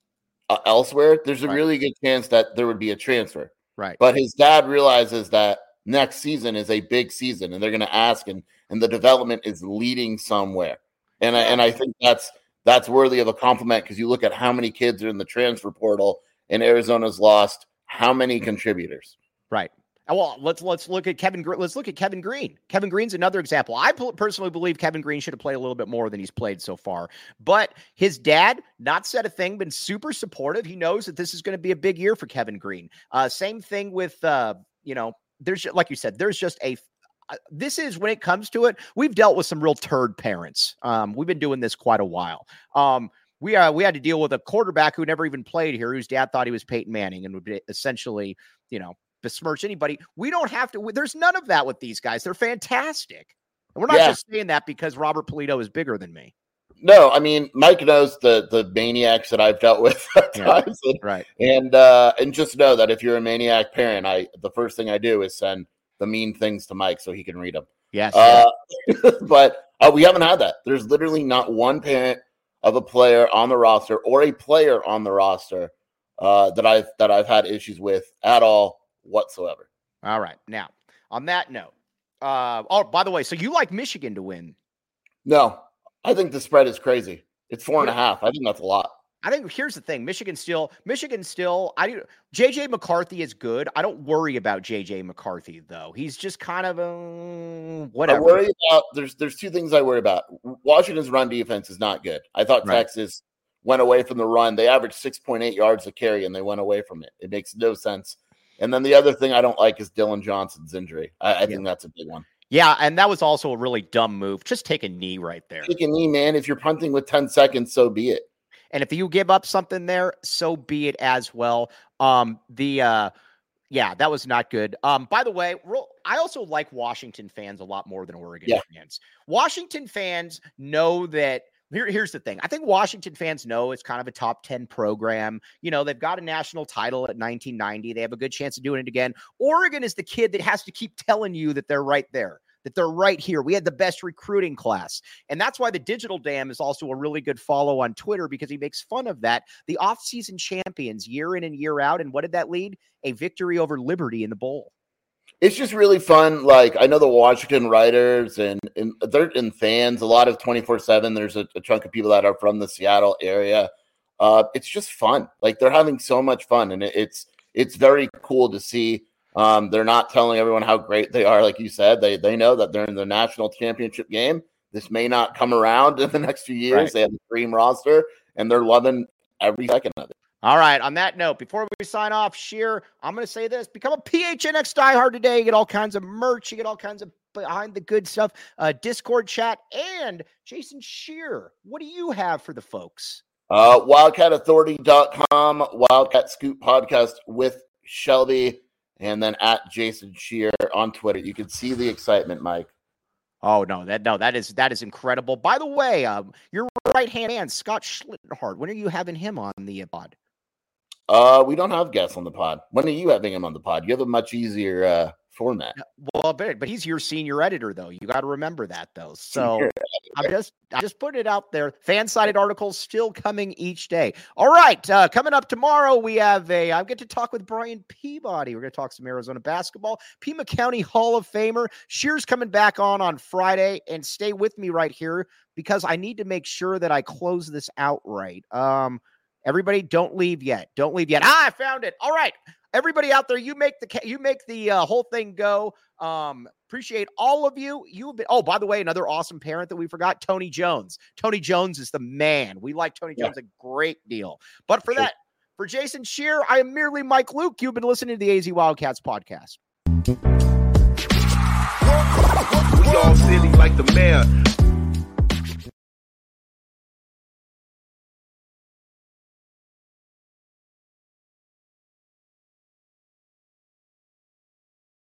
uh, elsewhere, there's a right. really good chance that there would be a transfer. Right. But his dad realizes that next season is a big season, and they're going to ask, and and the development is leading somewhere. And I, and I think that's that's worthy of a compliment, because you look at how many kids are in the transfer portal, and Arizona's lost how many contributors. Right. Well, let's let's look at Kevin. Let's look at Kevin Green. Kevin Green's another example. I personally believe Kevin Green should have played a little bit more than he's played so far. But his dad, not said a thing, been super supportive. He knows that this is going to be a big year for Kevin Green. Uh, same thing with, uh, you know, there's like you said, there's just a. Uh, this is when it comes to it. We've dealt with some real turd parents. Um, we've been doing this quite a while. Um, we uh, we had to deal with a quarterback who never even played here, whose dad thought he was Peyton Manning and would be essentially, you know, besmirch anybody. We don't have to. There's none of that with these guys. They're fantastic. And we're not Yeah. just saying that because Robert Polito is bigger than me. No, I mean, Mike knows the the maniacs that I've dealt with at Yeah, times. And, right. And uh, and just know that if you're a maniac parent, I the first thing I do is send the mean things to Mike so he can read them. Yes. Uh, but uh, we haven't had that. There's literally not one parent of a player on the roster or a player on the roster uh, that I've that I've had issues with at all whatsoever. All right. Now, on that note, uh, oh, by the way, so you like Michigan to win? No, I think the spread is crazy. It's four and a half. I think that's a lot. I think here's the thing. Michigan still, Michigan still, I J J McCarthy is good. I don't worry about J J McCarthy though. He's just kind of uh, whatever. I worry about there's there's two things I worry about. Washington's run defense is not good. I thought Right. Texas went away from the run. They averaged six point eight yards a carry and they went away from it. It makes no sense. And then the other thing I don't like is Dylan Johnson's injury. I, I Yeah. think that's a big one. Yeah, and that was also a really dumb move. Just take a knee right there. Take a knee, man. If you're punting with ten seconds, so be it. And if you give up something there, so be it as well. Um, the uh, yeah, that was not good. Um, by the way, real, I also like Washington fans a lot more than Oregon Yeah. fans. Washington fans know that. Here, here's the thing. I think Washington fans know it's kind of a top ten program. You know, they've got a national title at nineteen ninety. They have a good chance of doing it again. Oregon is the kid that has to keep telling you that they're right there, that they're right here. We had the best recruiting class. And that's why the Digital Dam is also a really good follow on Twitter, because he makes fun of that. The offseason champions year in and year out. And what did that lead? A victory over Liberty in the bowl. It's just really fun. Like, I know the Washington writers and, and they're and fans, a lot of twenty-four seven. There's a, a chunk of people that are from the Seattle area. Uh, it's just fun. Like, they're having so much fun, and it, it's it's very cool to see. Um, they're not telling everyone how great they are, like you said. They they know that they're in the national championship game. This may not come around in the next few years. Right. They have a dream roster, and they're loving every second of it. All right. On that note, before we sign off, Sheer, I'm going to say this. Become a P H N X diehard today. You get all kinds of merch. You get all kinds of behind the good stuff, uh, Discord chat. And Jason Sheer, what do you have for the folks? Uh, wildcat authority dot com, Wildcat Scoop Podcast with Shelby, and then at Jason Sheer on Twitter. You can see the excitement, Mike. Oh, no, that no, that is that is incredible. By the way, um, your right-hand man, Scott Schlittenhart, when are you having him on the pod? Uh, we don't have guests on the pod. When are you having him on the pod? You have a much easier uh, format. Well, but, but he's your senior editor, though. You got to remember that, though. So I'm just I just put it out there. Fan-sided articles still coming each day. All right, uh, coming up tomorrow, we have a. I get to talk with Brian Peabody. We're going to talk some Arizona basketball. Pima County Hall of Famer Shear's coming back on on Friday, and stay with me right here because I need to make sure that I close this out right. Um, everybody, don't leave yet. Don't leave yet. Ah, I found it. All right. Everybody out there, you make the you make the uh, whole thing go. Um, appreciate all of you. You have been. Oh, by the way, another awesome parent that we forgot, Tony Jones. Tony Jones is the man. We like Tony Jones yeah. a great deal. But for sure. that, for Jason Shear, I am merely Mike Luke. You've been listening to the A Z Wildcats podcast. We all silly like the mayor.